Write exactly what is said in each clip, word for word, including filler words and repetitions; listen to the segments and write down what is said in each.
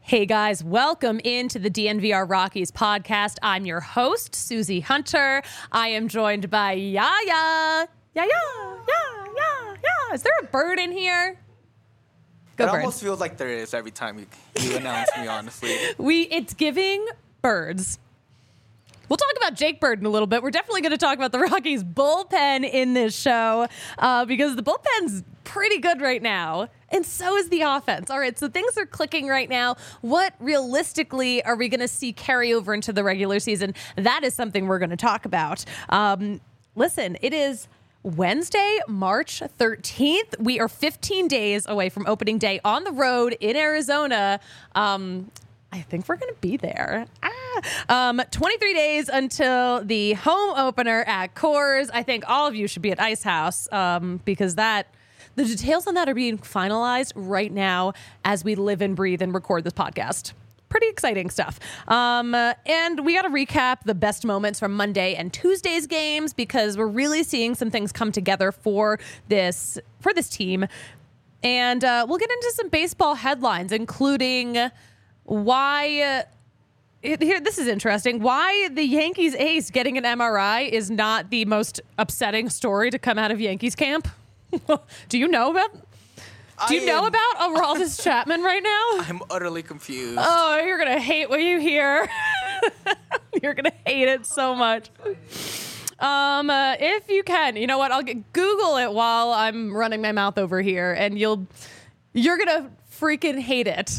Hey guys, welcome into the D N V R Rockies podcast. I'm your host, Susie Hunter. I am joined by Yaya. Yaya, yeah, yeah, yeah. Is there a bird in here? Go it bird. almost feels like there is every time you, you announce me, honestly. We, it's giving birds. We'll talk about Jake Bird in a little bit. We're definitely going to talk about the Rockies bullpen in this show uh, because the bullpen's pretty good right now. And so is the offense. All right, so things are clicking right now. What realistically are we going to see carry over into the regular season? That is something we're going to talk about. Um, listen, it is Wednesday, March thirteenth. We are fifteen days away from opening day on the road in Arizona. Um, I think we're going to be there. Ah. Um, twenty-three days until the home opener at Coors. I think all of you should be at Ice House um, because that the details on that are being finalized right now as we live and breathe and record this podcast. Pretty exciting stuff. Um, uh, and we got to recap the best moments from Monday and Tuesday's games because we're really seeing some things come together for this for this team. And uh, we'll get into some baseball headlines, including why uh, it, here this is interesting. Why the Yankees ace getting an M R I is not the most upsetting story to come out of Yankees camp. Do you know about? Do you I know am, about Aroldis Chapman right now? I'm utterly confused. Oh, you're gonna hate what you hear. You're gonna hate it so much. Um, uh, if you can, you know what? I'll get, Google it while I'm running my mouth over here, and you'll you're gonna freaking hate it.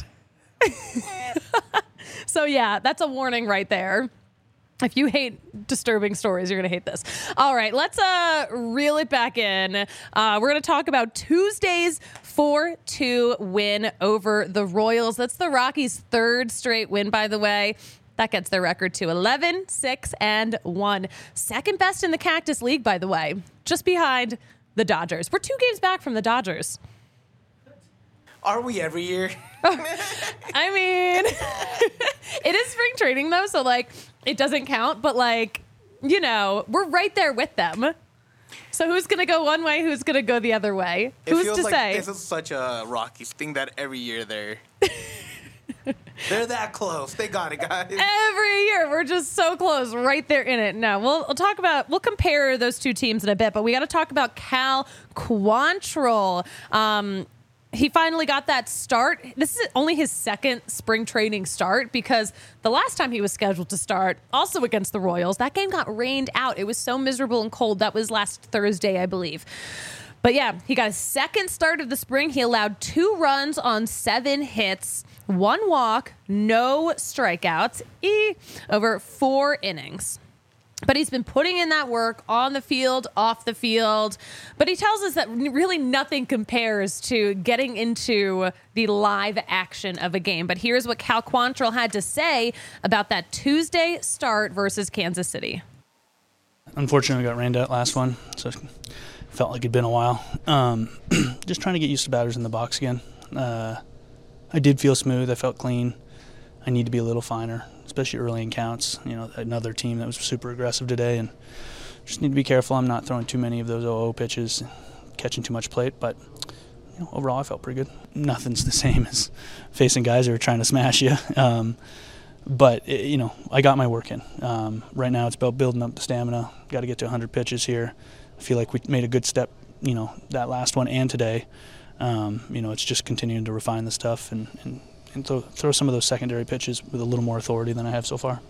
So yeah, that's a warning right there. If you hate disturbing stories, you're going to hate this. All right, let's uh, reel it back in. Uh, we're going to talk about Tuesday's four two win over the Royals. That's the Rockies' third straight win, by the way. That gets their record to eleven, six, and one. Second best in the Cactus League, by the way, just behind the Dodgers. We're two games back from the Dodgers. Are we every year? I mean, it is spring training, though, so, like, it doesn't count. But, like, you know, we're right there with them. So who's going to go one way? Who's going to go the other way? It who's feels to like say? This is such a Rockies thing that every year they're... They're that close. They got it, guys. Every year, we're just so close, right there in it. No, we'll, we'll talk about, we'll compare those two teams in a bit, but we got to talk about Cal Quantrill. Um, he finally got that start. This is only his second spring training start because the last time he was scheduled to start, also against the Royals, that game got rained out. It was so miserable and cold. That was last Thursday, I believe. But yeah, he got a second start of the spring. He allowed two runs on seven hits, one walk, no strikeouts, e, over four innings. But he's been putting in that work on the field, off the field. But he tells us that really nothing compares to getting into the live action of a game. But here's what Cal Quantrill had to say about that Tuesday start versus Kansas City. Unfortunately, we got rained out last one, so it felt like it'd been a while. Um, just trying to get used to batters in the box again. Uh, I did feel smooth. I felt clean. I need to be a little finer, especially early in counts. You know, another team that was super aggressive today, and just need to be careful. I'm not throwing too many of those oh oh pitches, catching too much plate, but you know, overall I felt pretty good. Nothing's the same as facing guys who are trying to smash you. Um, but, it, you know, I got my work in. Um, right now it's about building up the stamina. Got to get to one hundred pitches here. I feel like we made a good step, you know, that last one and today. Um, you know, it's just continuing to refine the stuff and, and and throw, throw some of those secondary pitches with a little more authority than I have so far.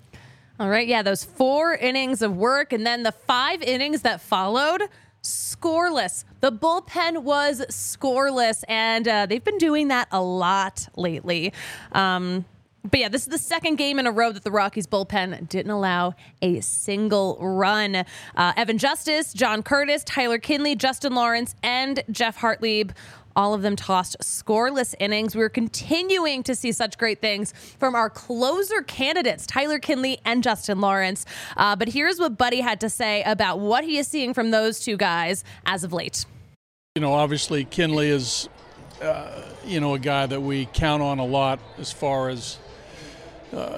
All right, yeah, those four innings of work and then the five innings that followed, scoreless. The bullpen was scoreless, and uh, they've been doing that a lot lately. Um, but yeah, this is the second game in a row that the Rockies bullpen didn't allow a single run. Uh, Evan Justice, John Curtis, Tyler Kinley, Justin Lawrence, and Jeff Hartlieb, all of them tossed scoreless innings. We're continuing to see such great things from our closer candidates, Tyler Kinley and Justin Lawrence. Uh, but here's what Buddy had to say about what he is seeing from those two guys as of late. You know, obviously Kinley is, uh, you know, a guy that we count on a lot as far as, uh,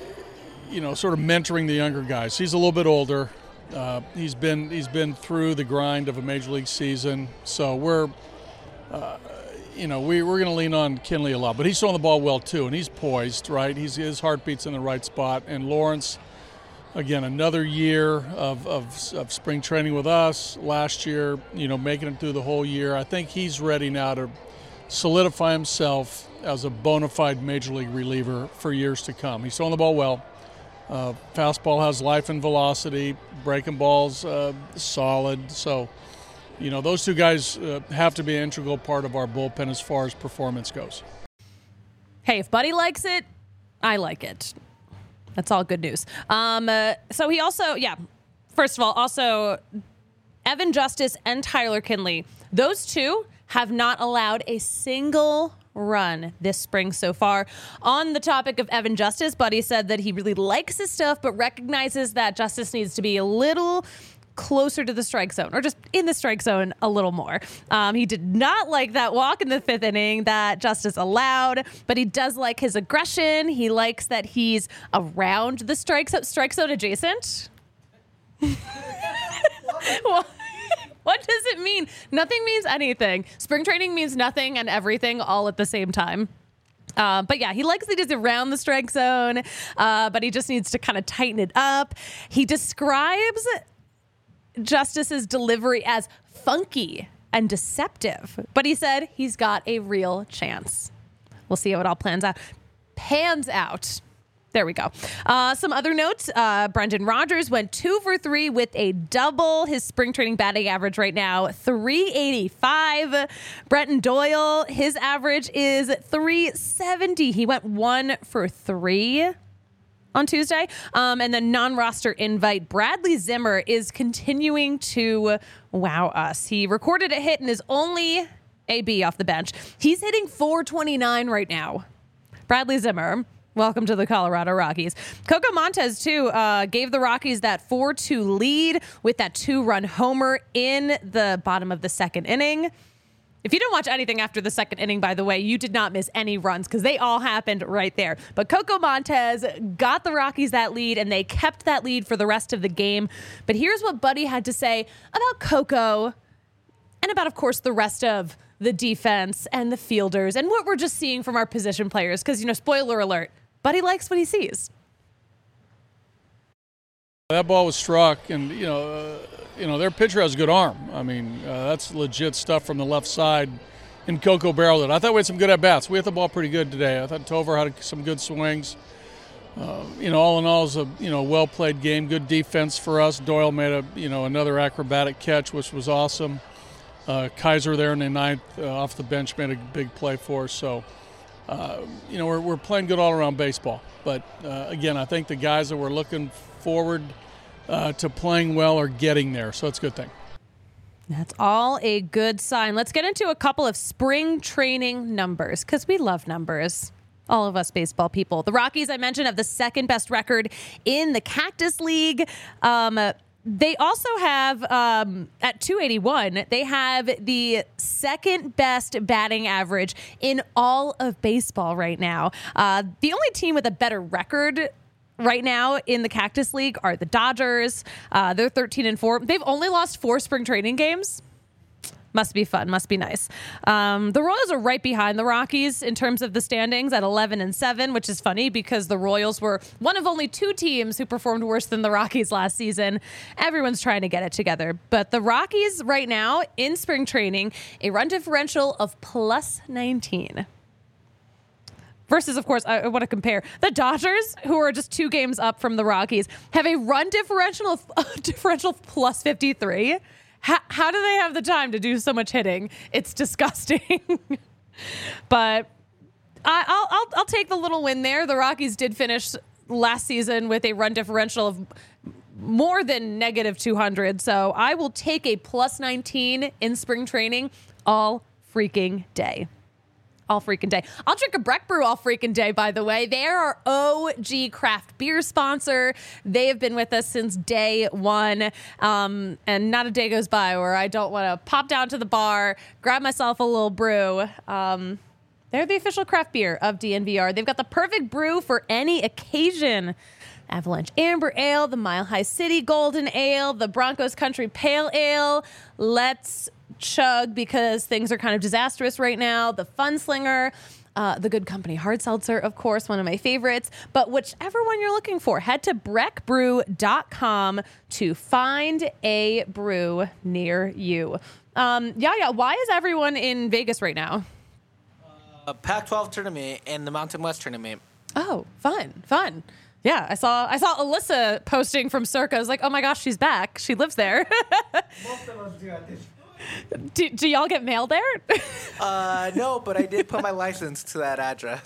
you know, sort of mentoring the younger guys. He's a little bit older. Uh, he's been he's been through the grind of a major league season, so we're. Uh, you know, we, we're going to lean on Kinley a lot. But he's throwing the ball well, too, and he's poised, right? He's, his heartbeat's in the right spot. And Lawrence, again, another year of, of, of spring training with us. Last year, you know, making it through the whole year. I think he's ready now to solidify himself as a bona fide major league reliever for years to come. He's throwing the ball well. Uh, fastball has life and velocity. Breaking balls uh, solid. So, you know, those two guys uh, have to be an integral part of our bullpen as far as performance goes. Hey, if Buddy likes it, I like it. That's all good news. Um, uh, so he also, yeah, first of all, also Evan Justice and Tyler Kinley, those two have not allowed a single run this spring so far. On the topic of Evan Justice, Buddy said that he really likes his stuff, but recognizes that Justice needs to be a little closer to the strike zone, or just in the strike zone a little more. Um, he did not like that walk in the fifth inning that Justice allowed, but he does like his aggression. He likes that he's around the strike zone, strike zone adjacent. Well, what does it mean? Nothing means anything. Spring training means nothing and everything all at the same time. Uh, but yeah, he likes that he's around the strike zone, uh, but he just needs to kind of tighten it up. He describes Justice's delivery as funky and deceptive, but he said he's got a real chance. We'll see how it all plans out. Pans out. There we go. Uh, some other notes. Uh, Brendan Rodgers went two for three with a double. His spring training batting average right now, three eighty-five. Brenton Doyle, his average is three seventy. He went one for three on Tuesday. Um, and then non-roster invite, Bradley Zimmer is continuing to wow us. He recorded a hit and is only A B off the bench. He's hitting four twenty-nine right now. Bradley Zimmer, welcome to the Colorado Rockies. Coco Montez, too, uh, gave the Rockies that four two lead with that two-run homer in the bottom of the second inning. If you didn't watch anything after the second inning, by the way, you did not miss any runs because they all happened right there. But Coco Montez got the Rockies that lead, and they kept that lead for the rest of the game. But here's what Buddy had to say about Coco and about, of course, the rest of the defense and the fielders and what we're just seeing from our position players. Because, you know, spoiler alert, Buddy likes what he sees. That ball was struck, and, you know, uh, you know, their pitcher has a good arm. I mean, uh, that's legit stuff from the left side. And Coco barreled it. I thought we had some good at-bats. We hit the ball pretty good today. I thought Tovar had some good swings. Uh, you know, all in all, it was a, you know, well-played game. Good defense for us. Doyle made a, you know, another acrobatic catch, which was awesome. Uh, Kaiser there in the ninth uh, off the bench made a big play for us. So, uh, you know, we're, we're playing good all-around baseball. But, uh, again, I think the guys that we're looking forward uh, to playing well are getting there. So it's a good thing. That's all a good sign. Let's get into a couple of spring training numbers because we love numbers. All of us baseball people. The Rockies, I mentioned, have the second best record in the Cactus League. Um, they also have, um, at two eighty-one, they have the second best batting average in all of baseball right now. Uh, the only team with a better record right now in the Cactus League are the Dodgers. Uh, they're thirteen and four. They've only lost four spring training games. Must be fun. Must be nice. Um, the Royals are right behind the Rockies in terms of the standings at eleven and seven, which is funny because the Royals were one of only two teams who performed worse than the Rockies last season. Everyone's trying to get it together. But the Rockies right now in spring training, a run differential of plus nineteen. Versus, of course, I want to compare the Dodgers, who are just two games up from the Rockies, have a run differential of uh, differential of plus fifty-three. How, how do they have the time to do so much hitting? It's disgusting. But I, I'll, I'll I'll take the little win there. The Rockies did finish last season with a run differential of more than negative two hundred. So I will take a plus nineteen in spring training all freaking day. All freaking day. I'll drink a Breck Brew all freaking day, by the way. They're our O G craft beer sponsor. They have been with us since day one. Um, and not a day goes by where I don't want to pop down to the bar, grab myself a little brew. Um, they're the official craft beer of D N V R. They've got the perfect brew for any occasion. Avalanche Amber Ale, the Mile High City Golden Ale, the Broncos Country Pale Ale. Let's chug because things are kind of disastrous right now. The Fun Slinger, uh, the Good Company Hard Seltzer, of course, one of my favorites. But whichever one you're looking for, head to breck brew dot com to find a brew near you. Um, yeah, yeah. Why is everyone in Vegas right now? A Pac twelve tournament and the Mountain West tournament. Oh, fun, fun. Yeah, I saw I saw Alyssa posting from Circa. I was like, oh my gosh, she's back. She lives there. Most of us do at this. do, do y'all get mail there? Uh, no, but I did put my license to that address.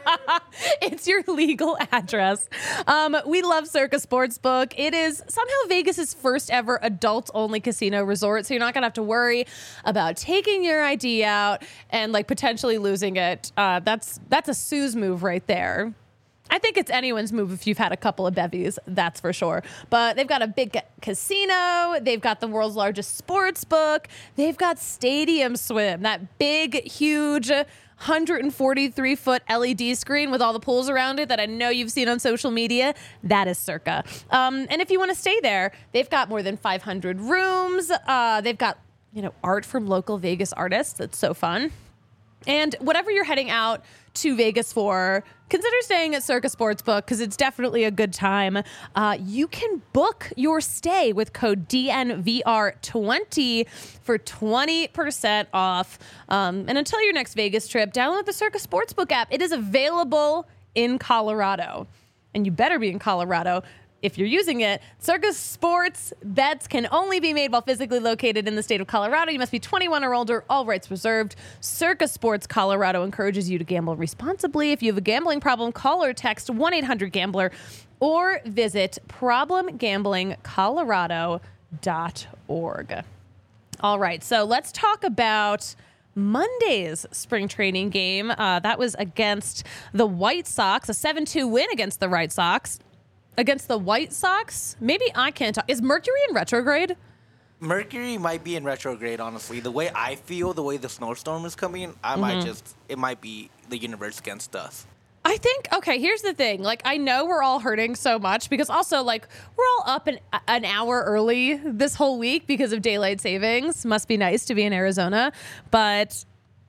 It's your legal address. Um, we love Circa Sportsbook. It is somehow Vegas's first ever adult-only casino resort, so you're not gonna have to worry about taking your I D out and like potentially losing it. Uh, that's that's a Sue's move right there. I think it's anyone's move if you've had a couple of bevies, that's for sure. But they've got a big ca- casino. They've got the world's largest sports book. They've got Stadium Swim, that big, huge one hundred forty-three foot L E D screen with all the pools around it that I know you've seen on social media. That is Circa. Um, and if you want to stay there, they've got more than five hundred rooms. Uh, they've got, you know, art from local Vegas artists. That's so fun. And whatever you're heading out to Vegas for, consider staying at Circa Sportsbook because it's definitely a good time. Uh, you can book your stay with code D N V R twenty for twenty percent off. Um, and until your next Vegas trip, download the Circa Sportsbook app. It is available in Colorado. And you better be in Colorado if you're using it. Circa Sports bets can only be made while physically located in the state of Colorado. You must be twenty-one or older, all rights reserved. Circa Sports Colorado encourages you to gamble responsibly. If you have a gambling problem, call or text one eight hundred gambler or visit problem gambling colorado dot org. All right, so let's talk about Monday's spring training game. Uh, that was against the White Sox, a seven two win against the White Sox. Against the White Sox? Maybe I can't talk. Is Mercury in retrograde? Mercury might be in retrograde, honestly. The way I feel, the way the snowstorm is coming, I Mm-hmm. might just, it might be the universe against us. I think, okay, here's the thing. Like, I know we're all hurting so much because also, like, we're all up an, an hour early this whole week because of daylight savings. Must be nice to be in Arizona. But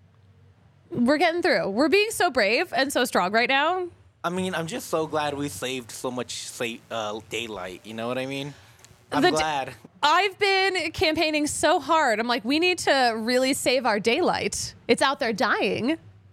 we're getting through. We're being so brave and so strong right now. I mean, I'm just so glad we saved so much sa- uh, daylight. You know what I mean? I'm The d- glad. I've been campaigning so hard. I'm like, we need to really save our daylight. It's out there dying.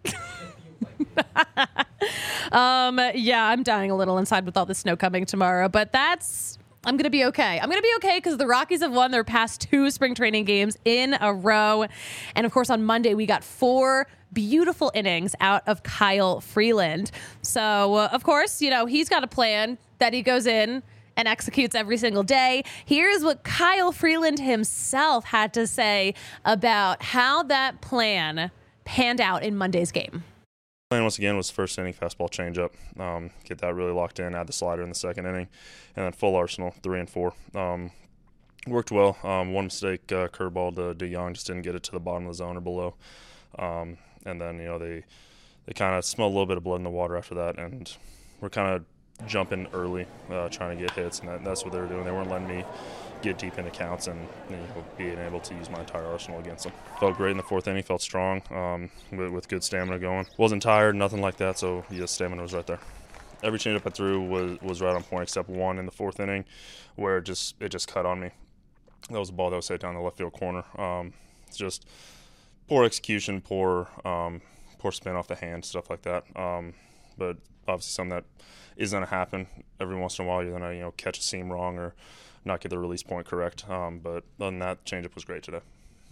um, yeah, I'm dying a little inside with all the snow coming tomorrow, but that's, I'm going to be okay. I'm going to be okay because the Rockies have won their past two spring training games in a row. And of course, on Monday, we got four beautiful innings out of Kyle Freeland. So, uh, of course, you know, he's got a plan that he goes in and executes every single day. Here's what Kyle Freeland himself had to say about how that plan panned out in Monday's game. Plan once again was first inning fastball changeup. Um, get that really locked in. Add the slider in the second inning, and then full arsenal three and four. Um, worked well. Um, one mistake, uh, curveball to DeYoung, just didn't get it to the bottom of the zone or below. Um, and then you know they they kind of smelled a little bit of blood in the water after that, and we're kind of jumping early, uh, trying to get hits, and that, that's what they were doing. They weren't letting me get deep into counts and you know, being able to use my entire arsenal against them. Felt great in the fourth inning, felt strong um, with, with good stamina going. Wasn't tired, nothing like that, so yeah, stamina was right there. Every changeup I threw was, was right on point except one in the fourth inning where it just it just cut on me. That was a ball that was hit down the left field corner. Um, it's just poor execution, poor um, poor spin off the hand, stuff like that. Um, but obviously something that is going to happen every once in a while. You're going to you know catch a seam wrong or not get the release point correct. Um, but other than that, changeup was great today.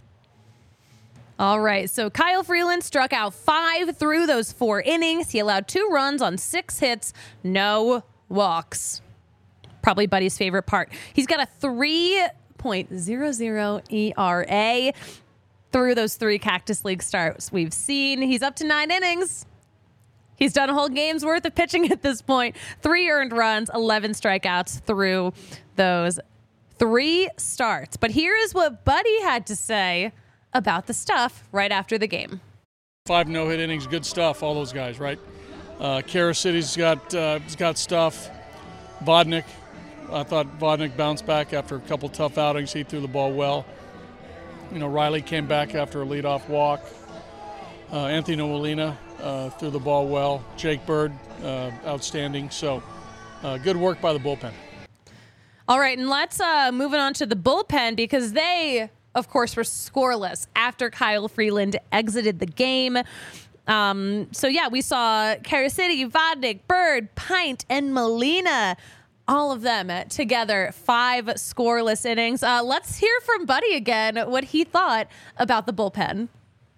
All right, so Kyle Freeland struck out five through those four innings. He allowed two runs on six hits, no walks. Probably Buddy's favorite part. He's got a three point oh oh E R A through those three Cactus League starts we've seen. He's up to nine innings. He's done a whole game's worth of pitching at this point. Three earned runs, eleven strikeouts through those three starts. But here is what Buddy had to say about the stuff right after the game. Five no-hit innings, good stuff, all those guys, right? Uh, Kara City's got, uh, he's got stuff. Vodnik, I thought Vodnik bounced back after a couple tough outings. He threw the ball well. You know, Riley came back after a leadoff walk. Uh, Anthony Molina uh, threw the ball well. Jake Bird, uh, outstanding. So uh, good work by the bullpen. All right, and let's uh, move it on to the bullpen because they, of course, were scoreless after Kyle Freeland exited the game. Um, so, yeah, we saw Carisity, Vodnik, Bird, Pint, and Molina, all of them together, five scoreless innings. Uh, let's hear from Buddy again what he thought about the bullpen.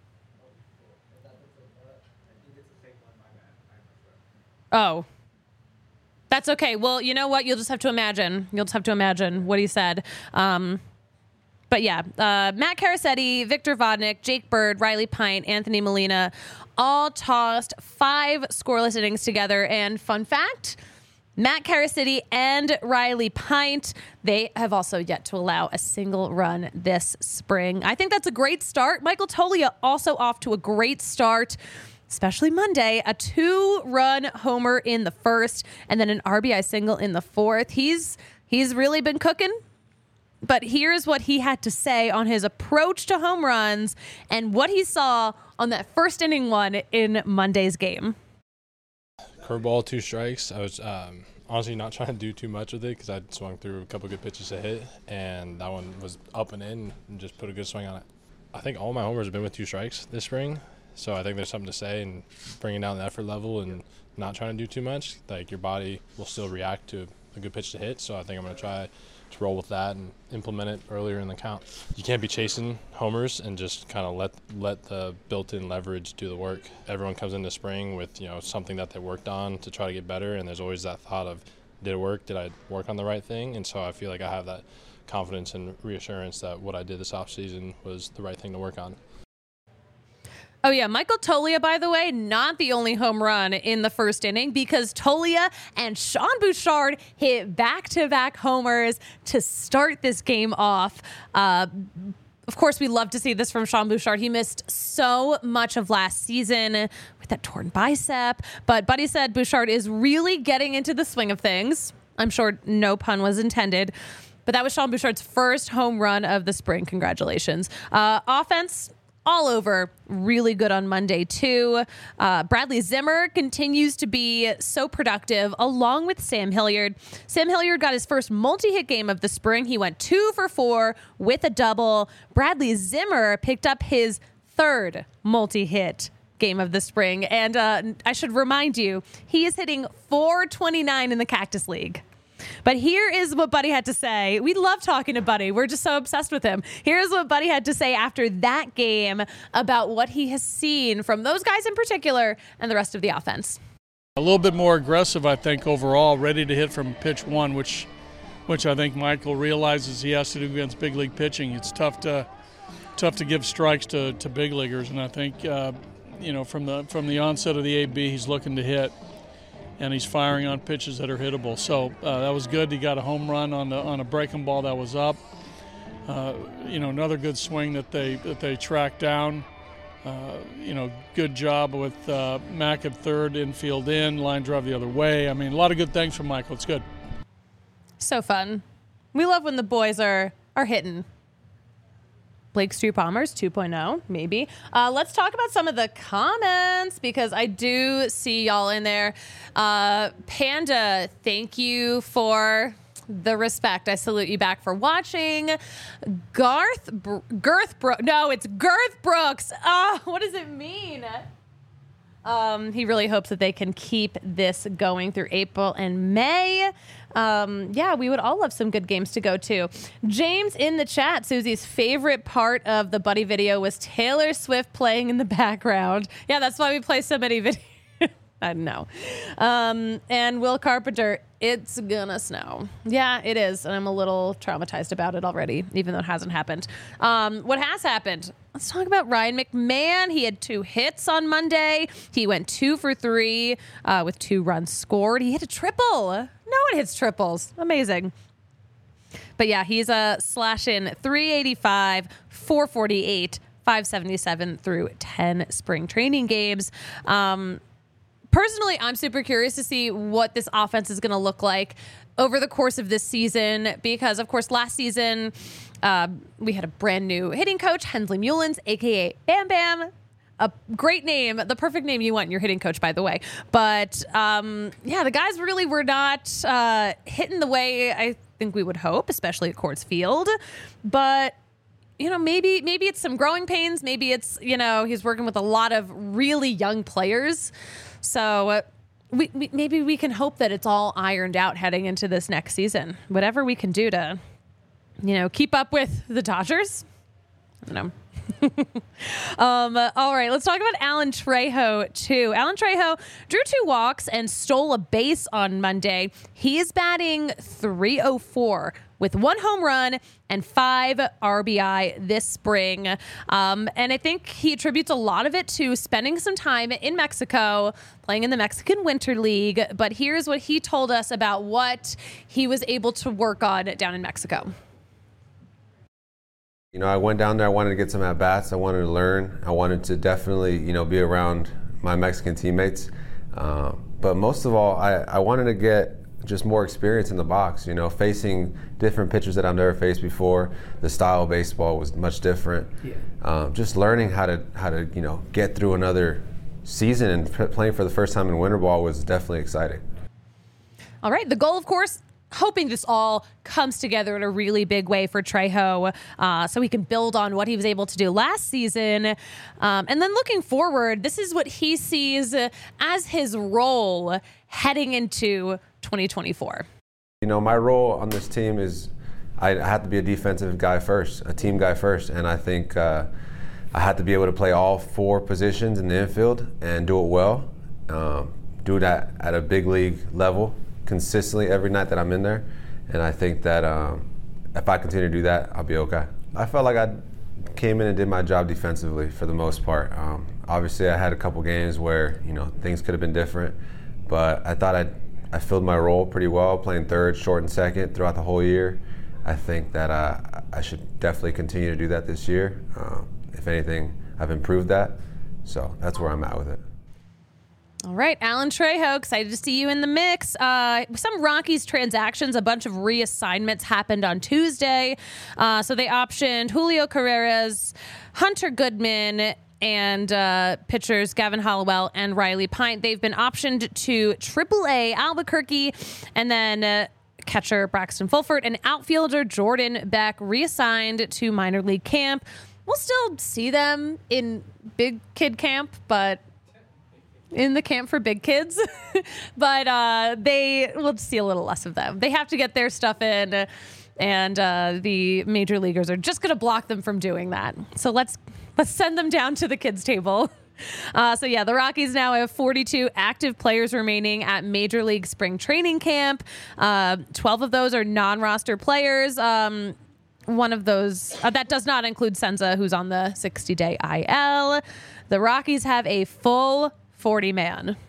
Oh. That's okay. Well, you know what? You'll just have to imagine. You'll just have to imagine what he said. Um, but yeah, uh, Matt Carissetti, Victor Vodnik, Jake Bird, Riley Pint, Anthony Molina, all tossed five scoreless innings together. And fun fact, Matt Carissetti and Riley Pint, they have also yet to allow a single run this spring. I think that's a great start. Michael Toglia also off to a great start, especially Monday, a two-run homer in the first and then an R B I single in the fourth. He's he's really been cooking. But here's what he had to say on his approach to home runs and what he saw on that first inning one in Monday's game. Curveball, two strikes. I was um, honestly not trying to do too much with it because I swung through a couple good pitches to hit, and that one was up and in and just put a good swing on it. I think all my homers have been with two strikes this spring. So I think there's something to say in bringing down the effort level and not trying to do too much. Like, your body will still react to a good pitch to hit. So I think I'm going to try to roll with that and implement it earlier in the count. You can't be chasing homers and just kind of let let the built-in leverage do the work. Everyone comes into spring with, you know, something that they worked on to try to get better, and there's always that thought of, did it work? Did I work on the right thing? And so I feel like I have that confidence and reassurance that what I did this offseason was the right thing to work on. Oh, yeah. Michael Toglia, by the way, not the only home run in the first inning because Toglia and Sean Bouchard hit back-to-back homers to start this game off. Uh, of course, we love to see this from Sean Bouchard. He missed so much of last season with that torn bicep. But Buddy said Bouchard is really getting into the swing of things. I'm sure no pun was intended. But that was Sean Bouchard's first home run of the spring. Congratulations. Uh, offense all over, really good on Monday too. Uh, Bradley Zimmer continues to be so productive along with Sam Hilliard. Sam Hilliard got his first multi-hit game of the spring. He went two for four with a double. Bradley Zimmer picked up his third multi-hit game of the spring. And uh, I should remind you, he is hitting four twenty-nine in the Cactus League. But here is what Buddy had to say. We love talking to Buddy. We're just so obsessed with him. Here's what Buddy had to say after that game about what he has seen from those guys in particular and the rest of the offense. A little bit more aggressive, I think, overall, ready to hit from pitch one, which which I think Michael realizes he has to do against big league pitching. It's tough to tough to give strikes to, to big leaguers, and I think uh, you know from the from the onset of the A B, he's looking to hit. And he's firing on pitches that are hittable. So uh, that was good. He got a home run on the on a breaking ball that was up. Uh, you know, another good swing that they that they tracked down. Uh, you know, good job with uh, Mack at third, infield in, line drive the other way. I mean, a lot of good things from Michael. It's good. So fun. We love when the boys are are hitting. Blake Street Bombers two point oh, maybe. Uh, let's talk about some of the comments because I do see y'all in there. Uh, Panda, thank you for the respect. I salute you back for watching. Garth, Br- Girth Brooks. No, it's Girth Brooks. Oh, what does it mean? Um, he really hopes that they can keep this going through April and May. Um, yeah, we would all love some good games to go to. James in the chat, Susie's favorite part of the Buddy video was Taylor Swift playing in the background. Yeah, that's why we play so many videos. I know. Um, and Will Carpenter, it's gonna snow. Yeah, it is. And I'm a little traumatized about it already, even though it hasn't happened. Um, what has happened? Let's talk about Ryan McMahon. He had two hits on Monday. He went two for three uh, with two runs scored. He hit a triple. No one hits triples. Amazing. But yeah, he's a slash in three eighty-five, four forty-eight, five seventy-seven through ten spring training games. Um, Personally, I'm super curious to see what this offense is going to look like over the course of this season because, of course, last season Uh, we had a brand new hitting coach, Hensley Mullins, a k a. Bam Bam. A great name, the perfect name you want in your hitting coach, by the way. But um, yeah, the guys really were not uh, hitting the way I think we would hope, especially at Coors Field. But you know, maybe maybe it's some growing pains. Maybe it's, you know, he's working with a lot of really young players. So uh, we, we maybe we can hope that it's all ironed out heading into this next season. Whatever we can do to, you know, keep up with the Dodgers. I don't know. um, uh, all right, let's talk about Alan Trejo, too. Alan Trejo drew two walks and stole a base on Monday. He is batting three oh four with one home run and five R B I this spring. Um, and I think he attributes a lot of it to spending some time in Mexico, playing in the Mexican Winter League. But here's what he told us about what he was able to work on down in Mexico. You know, I went down there, I wanted to get some at-bats, I wanted to learn, I wanted to definitely, you know, be around my Mexican teammates. Um, but most of all, I, I wanted to get just more experience in the box, you know, facing different pitchers that I've never faced before. The style of baseball was much different. Yeah. Um, just learning how to, how to, you know, get through another season and p- playing for the first time in winter ball was definitely exciting. All right, the goal, of course, hoping this all comes together in a really big way for Trejo uh, so he can build on what he was able to do last season. Um, and then looking forward, this is what he sees as his role heading into twenty twenty-four. You know, my role on this team is I have to be a defensive guy first, a team guy first. And I think uh, I have to be able to play all four positions in the infield and do it well, um, do that at a big league level consistently every night that I'm in there. And I think that um, if I continue to do that, I'll be okay. I felt like I came in and did my job defensively for the most part. Um, obviously, I had a couple games where, you know, things could have been different, but I thought I I filled my role pretty well, playing third, short, and second throughout the whole year. I think that uh, I should definitely continue to do that this year. Um, if anything, I've improved that. So that's where I'm at with it. All right, Alan Trejo, excited to see you in the mix. Uh, some Rockies transactions, a bunch of reassignments happened on Tuesday. Uh, so they optioned Julio Carreras, Hunter Goodman, and uh, pitchers Gavin Hollowell and Riley Pint. They've been optioned to triple A Albuquerque, and then uh, catcher Braxton Fulford and outfielder Jordan Beck reassigned to minor league camp. We'll still see them in big kid camp, but in the camp for big kids, but uh, they will see a little less of them. They have to get their stuff in, and uh, the major leaguers are just going to block them from doing that. So let's let's send them down to the kids' table. Uh, so yeah, the Rockies now have forty-two active players remaining at Major League Spring Training Camp. Uh, twelve of those are non-roster players. Um, one of those, uh, that does not include Senza, who's on the sixty-day I L. The Rockies have a full forty man.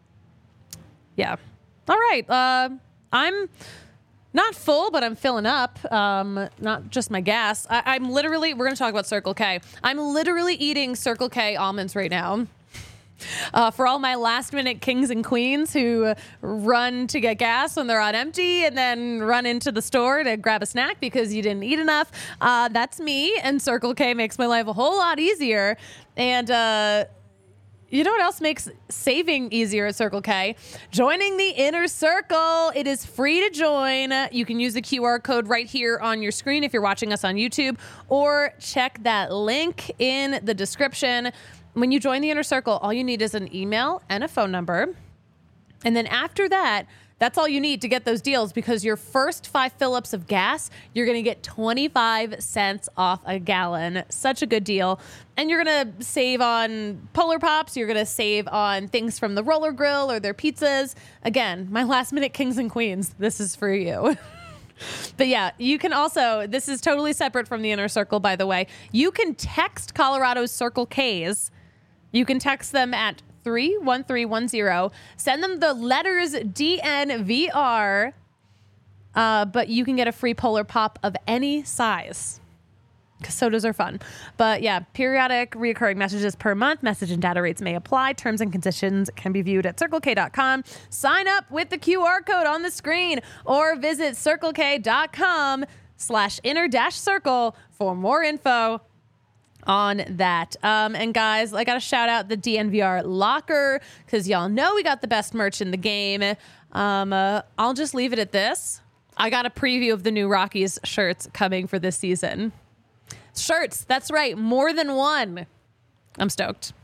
Yeah. All right. Uh, I'm not full, but I'm filling up. Um, not just my gas. I, I'm literally, we're going to talk about Circle K. I'm literally eating Circle K almonds right now. Uh, for all my last minute kings and queens who run to get gas when they're on empty and then run into the store to grab a snack because you didn't eat enough. Uh, that's me. And Circle K makes my life a whole lot easier. And, uh, you know what else makes saving easier at Circle K? Joining the Inner Circle. It is free to join. You can use the Q R code right here on your screen if you're watching us on YouTube, or check that link in the description. When you join the Inner Circle, all you need is an email and a phone number. And then after that, that's all you need to get those deals, because your first five fill-ups of gas, you're going to get twenty-five cents off a gallon. Such a good deal. And you're going to save on Polar Pops. You're going to save on things from the Roller Grill or their pizzas. Again, my last minute kings and queens, this is for you. But yeah, you can also, this is totally separate from the Inner Circle, by the way. You can text Colorado's Circle K's. You can text them at three one three one zero. Send them the letters D N V R, uh, but you can get a free Polar Pop of any size, because sodas are fun. But yeah, periodic reoccurring messages per month. Message and data rates may apply. Terms and conditions can be viewed at circle k dot com. Sign up with the Q R code on the screen or visit circle k dot com slash inner dash circle for more info on that. Um, and guys, I got to shout out the D N V R locker because y'all know we got the best merch in the game. Um, uh, I'll just leave it at this. I got a preview of the new Rockies shirts coming for this season. Shirts, that's right, more than one. I'm stoked.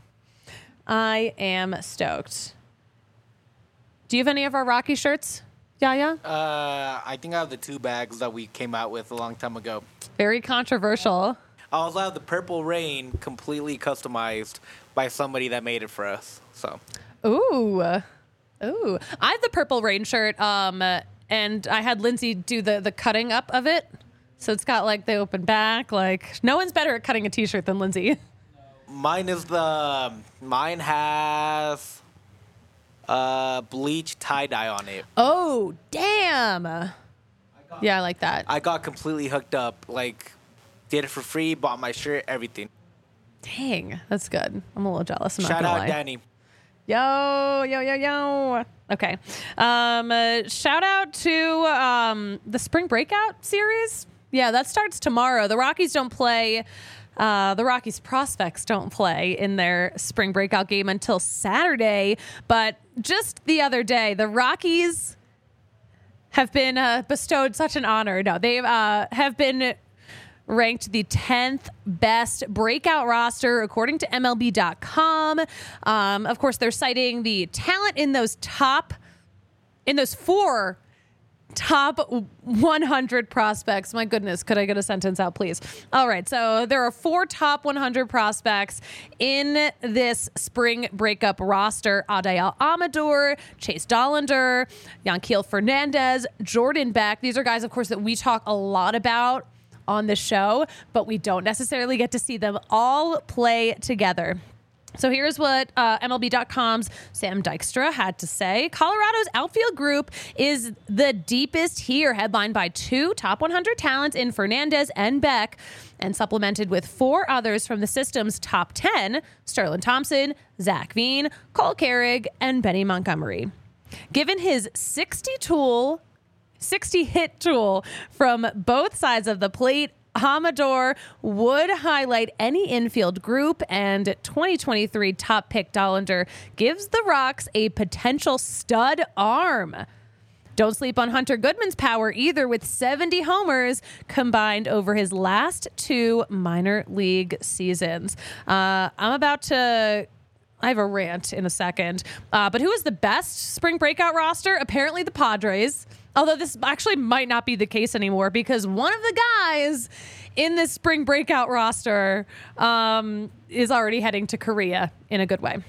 I am stoked. Do you have any of our Rocky shirts, Yaya? Uh, I think I have the two bags that we came out with a long time ago. Very controversial. I also have the Purple Rain completely customized by somebody that made it for us. So, Ooh. Ooh. I have the Purple Rain shirt, um, and I had Lindsay do the, the cutting up of it. So it's got like the open back. Like, no one's better at cutting a t-shirt than Lindsay. mine is the, mine has uh, bleach tie-dye on it. Oh, damn. Yeah, I like that. I got completely hooked up. Like, did it for free, bought my shirt, everything. Dang, that's good. I'm a little jealous. I'm not Shout gonna out lie. Danny. Yo, yo, yo, yo. Okay. Um, uh, shout out to um, the Spring Breakout series. Yeah, that starts tomorrow. The Rockies don't play. Uh, the Rockies prospects don't play in their Spring Breakout game until Saturday. But just the other day, the Rockies have been uh, bestowed such an honor. No, they uh, have been ranked the tenth best breakout roster according to M L B dot com. Um, of course, they're citing the talent in those top, in those four top one hundred prospects. My goodness, could I get a sentence out, please? All right, so there are four top one hundred prospects in this spring breakup roster. Adael Amador, Chase Dollander, Yanquiel Fernandez, Jordan Beck. These are guys, of course, that we talk a lot about on the show, but we don't necessarily get to see them all play together. So here's what uh, M L B dot com's Sam Dykstra had to say. Colorado's outfield group is the deepest here, headlined by two top one hundred talents in Fernandez and Beck, and supplemented with four others from the system's top ten, Sterling Thompson, Zach Veen, Cole Carrig, and Benny Montgomery. Given his sixty tool sixty hit tool from both sides of the plate, Amador would highlight any infield group, and twenty twenty-three top pick Dollander gives the Rocks a potential stud arm. Don't sleep on Hunter Goodman's power either, with seventy homers combined over his last two minor league seasons. Uh, I'm about to... I have a rant in a second. Uh, but who is the best spring breakout roster? Apparently the Padres. Although this actually might not be the case anymore, because one of the guys in this spring breakout roster um, is already heading to Korea in a good way.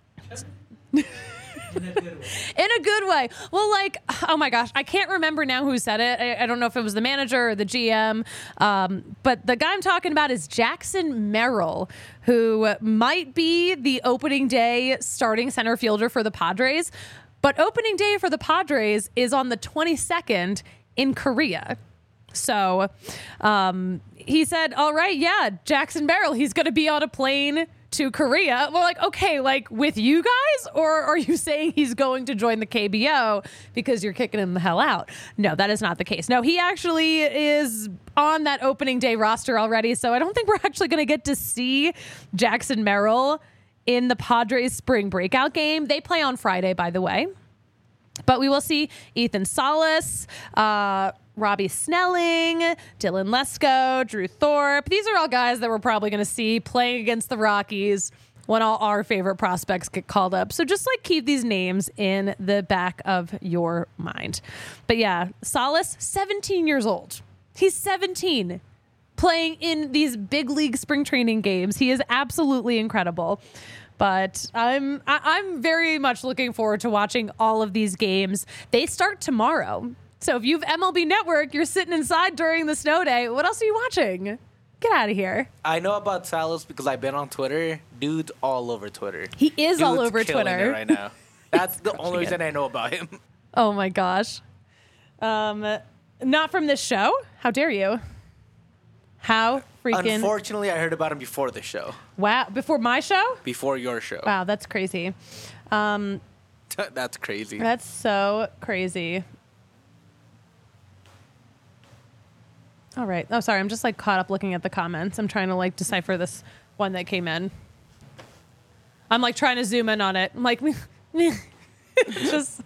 In a good way. In a good way. Well, like, oh my gosh, I can't remember now who said it. I, I don't know if it was the manager or the G M. Um, but the guy I'm talking about is Jackson Merrill, who might be the opening day starting center fielder for the Padres. But opening day for the Padres is on the twenty-second in Korea. So um, he said, all right, yeah, Jackson Merrill, he's going to be on a plane to Korea. We're like, okay, like with you guys? Or are you saying he's going to join the K B O because you're kicking him the hell out? No, that is not the case. No, he actually is on that opening day roster already. So I don't think we're actually going to get to see Jackson Merrill in the Padres spring breakout game. They play on Friday, by the way. But we will see Ethan Salas, uh, Robbie Snelling, Dylan Lesko, Drew Thorpe. These are all guys that we're probably going to see playing against the Rockies when all our favorite prospects get called up. So just like keep these names in the back of your mind. But yeah, Salas, seventeen years old. He's seventeen, playing in these big league spring training games. He is absolutely incredible. But I'm I, I'm very much looking forward to watching all of these games. They start tomorrow. So if you have M L B Network, you're sitting inside during the snow day. What else are you watching? Get out of here. I know about Salas because I've been on Twitter. Dude's all over Twitter. He is Dude's all over killing Twitter it right now. That's the only reason I know about him. Oh my gosh. Um, not from this show. How dare you? How freaking... Unfortunately, I heard about him before the show. Wow. Before my show? Before your show. Wow, that's crazy. Um, That's crazy. That's so crazy. All right. Oh, sorry. I'm just like caught up looking at the comments. I'm trying to like decipher this one that came in. I'm like trying to zoom in on it. I'm like, just.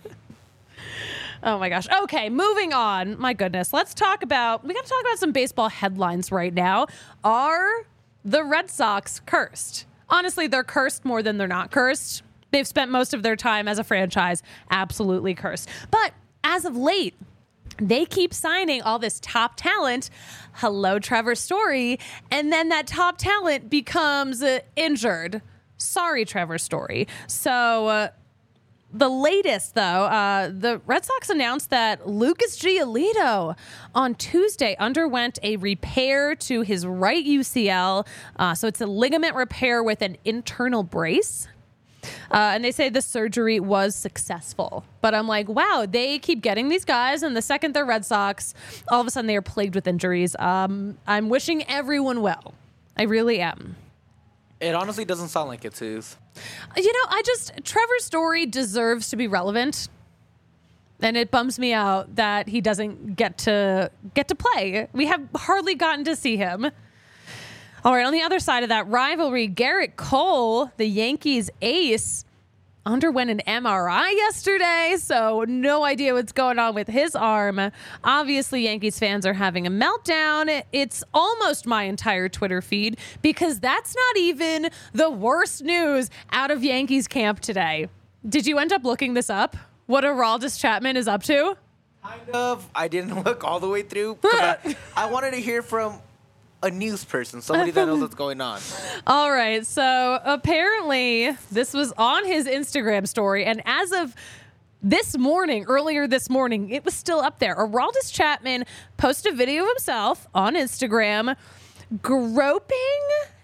Oh my gosh. Okay, moving on. My goodness. Let's talk about, we got to talk about some baseball headlines right now. Are the Red Sox cursed? Honestly, they're cursed more than they're not cursed. They've spent most of their time as a franchise absolutely cursed. But as of late, they keep signing all this top talent. Hello, Trevor Story. And then that top talent becomes uh, injured. Sorry, Trevor Story. So, uh, the latest, though, uh, the Red Sox announced that Lucas Giolito on Tuesday underwent a repair to his right U C L. Uh, so it's a ligament repair with an internal brace. Uh, and they say the surgery was successful. But I'm like, wow, they keep getting these guys. And the second they're Red Sox, all of a sudden they are plagued with injuries. Um, I'm wishing everyone well. I really am. It honestly doesn't sound like it, Suze. You know, I just, Trevor Story deserves to be relevant. And it bums me out that he doesn't get to get to play. We have hardly gotten to see him. All right, on the other side of that rivalry, Garrett Cole, the Yankees ace, underwent an M R I yesterday, so no idea what's going on with his arm. Obviously, Yankees fans are having a meltdown. It's almost my entire Twitter feed because that's not even the worst news out of Yankees camp today. Did you end up looking this up? What Aroldis Chapman is up to? Kind of. I didn't look all the way through. I, I wanted to hear from a news person, somebody that knows what's going on. All right. So apparently this was on his Instagram story. And as of this morning, earlier this morning, it was still up there. Aroldis Chapman posted a video of himself on Instagram groping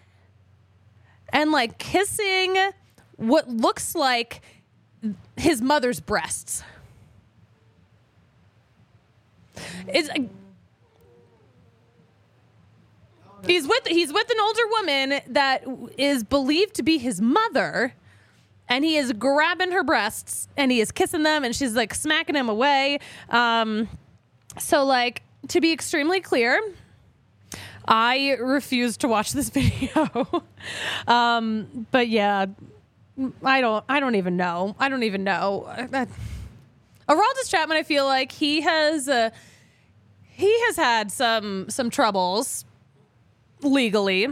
and like kissing what looks like his mother's breasts. It's He's with he's with an older woman that is believed to be his mother, and he is grabbing her breasts and he is kissing them, and she's like smacking him away. Um, so, like, to be extremely clear, I refuse to watch this video. um, but yeah, I don't I don't even know. I don't even know. Aroldis Chapman, I feel like he has uh, he has had some some troubles legally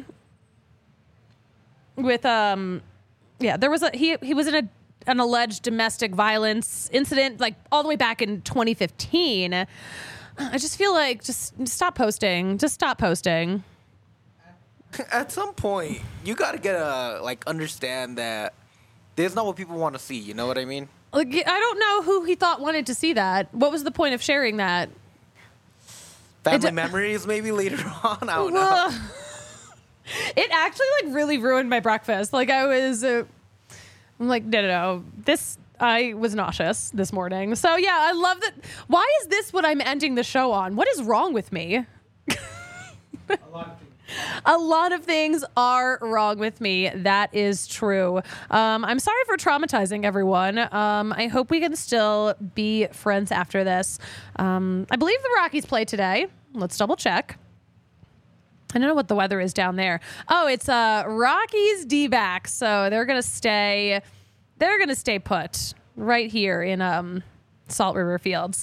with um yeah there was a he he was in a an alleged domestic violence incident like all the way back in twenty fifteen. I just feel like just stop posting just stop posting At some point you got to get a like understand that there's not what people want to see, you know what I mean? Like, I don't know who he thought wanted to see that. What was the point of sharing that? Family memories maybe later on. I don't know. It actually like really ruined my breakfast. Like I was, uh, I'm like, no, no, no. This, I was nauseous this morning. So yeah, I love that. Why is this what I'm ending the show on? What is wrong with me? A lot of things. A lot of things are wrong with me. That is true. Um, I'm sorry for traumatizing everyone. Um, I hope we can still be friends after this. Um, I believe the Rockies play today. Let's double check. I don't know what the weather is down there. Oh, it's uh, Rockies D-backs. So they're going to stay, they're going to stay put right here in um, Salt River Fields.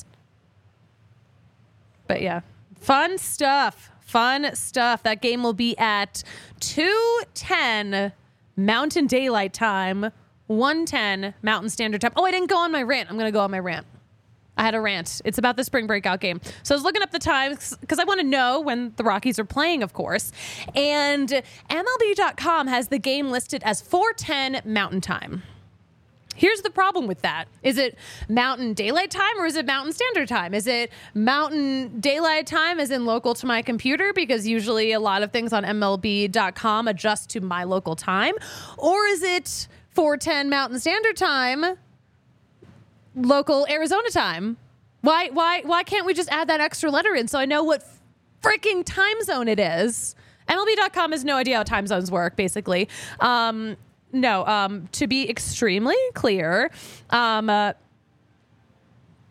But yeah, fun stuff. Fun stuff. That game will be at two ten Mountain Daylight Time, one ten Mountain Standard Time. Oh, I didn't go on my rant. I'm going to go on my rant. I had a rant. It's about the spring breakout game. So I was looking up the times because I want to know when the Rockies are playing, of course. And M L B dot com has the game listed as four ten Mountain Time. Here's the problem with that. Is it Mountain Daylight Time or is it Mountain Standard Time? Is it Mountain Daylight Time as in local to my computer? Because usually a lot of things on M L B dot com adjust to my local time. Or is it four ten Mountain Standard Time, local Arizona time? Why, why, why can't we just add that extra letter in so I know what freaking time zone it is? M L B dot com has no idea how time zones work, basically. Um, No, um, to be extremely clear, um, uh,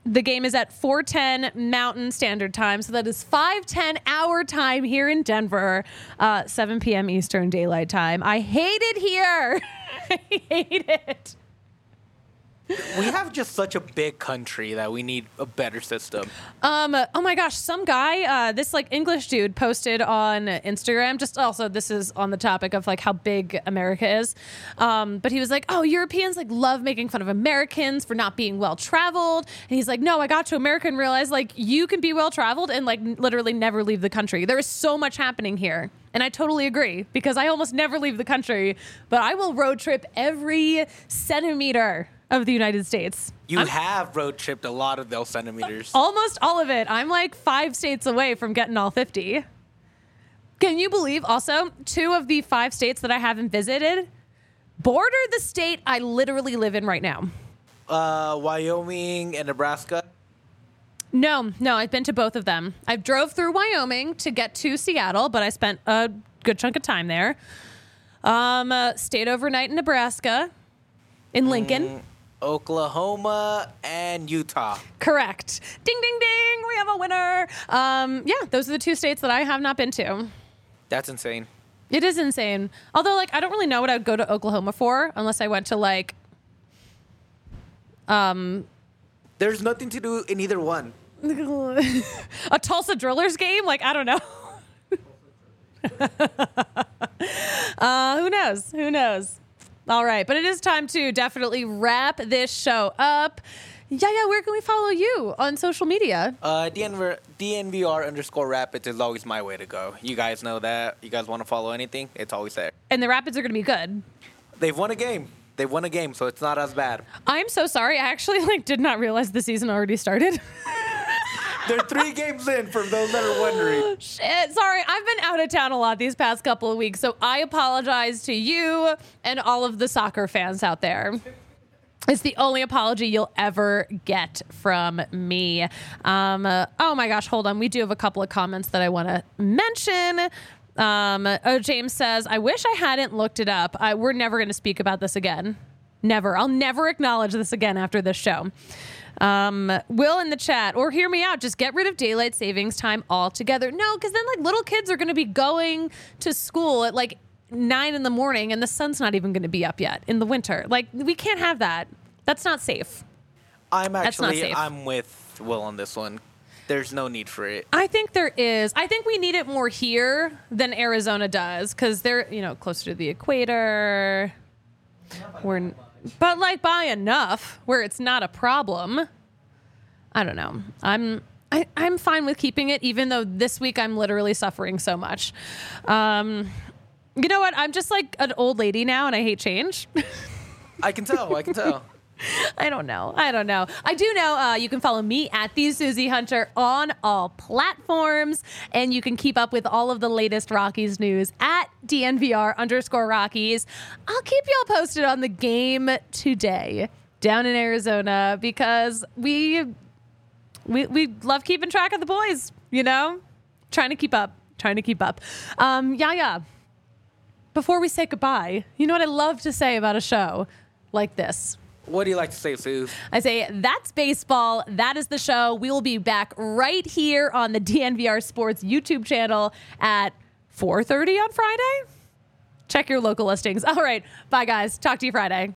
The game is at four ten Mountain Standard Time, so that is five ten our time here in Denver, uh, seven p.m. Eastern Daylight Time. I hate it here. I hate it. We have just such a big country that we need a better system. Um. Oh my gosh, some guy, uh, this like English dude, posted on Instagram. Just also, this is on the topic of like how big America is. Um. But he was like, "Oh, Europeans like love making fun of Americans for not being well traveled." And he's like, "No, I got to America and realized like you can be well traveled and like n- literally never leave the country. There is so much happening here." And I totally agree because I almost never leave the country, but I will road trip every centimeter of the United States. You I'm- have road tripped a lot of those centimeters. Almost all of it. I'm like five states away from getting all fifty. Can you believe also two of the five states that I haven't visited border the state I literally live in right now? Uh, Wyoming and Nebraska. No, no, I've been to both of them. I drove through Wyoming to get to Seattle, but I spent a good chunk of time there. Um, uh, stayed overnight in Nebraska, in Lincoln. Mm, Oklahoma and Utah. Correct. Ding, ding, ding. We have a winner. Um, yeah, those are the two states that I have not been to. That's insane. It is insane. Although, like, I don't really know what I would go to Oklahoma for unless I went to, like, um, There's nothing to do in either one. a Tulsa Drillers game. Like, I don't know. uh, who knows? Who knows? All right. But it is time to definitely wrap this show up. Yeah, yeah. Where can we follow you on social media? Uh, D N V, D N V R underscore Rapids is always my way to go. You guys know that. You guys want to follow anything? It's always there. And the Rapids are going to be good. They've won a game. They won a game, so it's not as bad. I'm so sorry. I actually like did not realize the season already started. They're three games in, for those that are wondering. Shit, sorry. I've been out of town a lot these past couple of weeks, so I apologize to you and all of the soccer fans out there. It's the only apology you'll ever get from me. Um, uh, oh my gosh, hold on. We do have a couple of comments that I want to mention. Um, oh, James says, I wish I hadn't looked it up. I, we're never going to speak about this again. Never. I'll never acknowledge this again after this show. Um, Will in the chat, or hear me out, just get rid of daylight savings time altogether. No, because then like little kids are going to be going to school at like nine in the morning and the sun's not even going to be up yet in the winter. Like we can't have that. That's not safe. I'm That's not actually, safe. I'm with Will on this one. There's no need for it. I think there is. I think we need it more here than Arizona does because they're, you know, closer to the equator. We're, but like by enough where it's not a problem. I don't know. I'm I, I'm fine with keeping it, even though this week I'm literally suffering so much. Um, you know what? I'm just like an old lady now, and I hate change. I can tell. I can tell. I don't know. I don't know. I do know uh, you can follow me at the Susie Hunter on all platforms, and you can keep up with all of the latest Rockies news at D N V R underscore Rockies. I'll keep y'all posted on the game today down in Arizona because we we we love keeping track of the boys. You know, trying to keep up, trying to keep up. Um, yeah, yeah. Before we say goodbye, you know what I love to say about a show like this. What do you like to say, Sue? I say, that's baseball. That is the show. We will be back right here on the D N V R Sports YouTube channel at four thirty on Friday. Check your local listings. All right. Bye, guys. Talk to you Friday.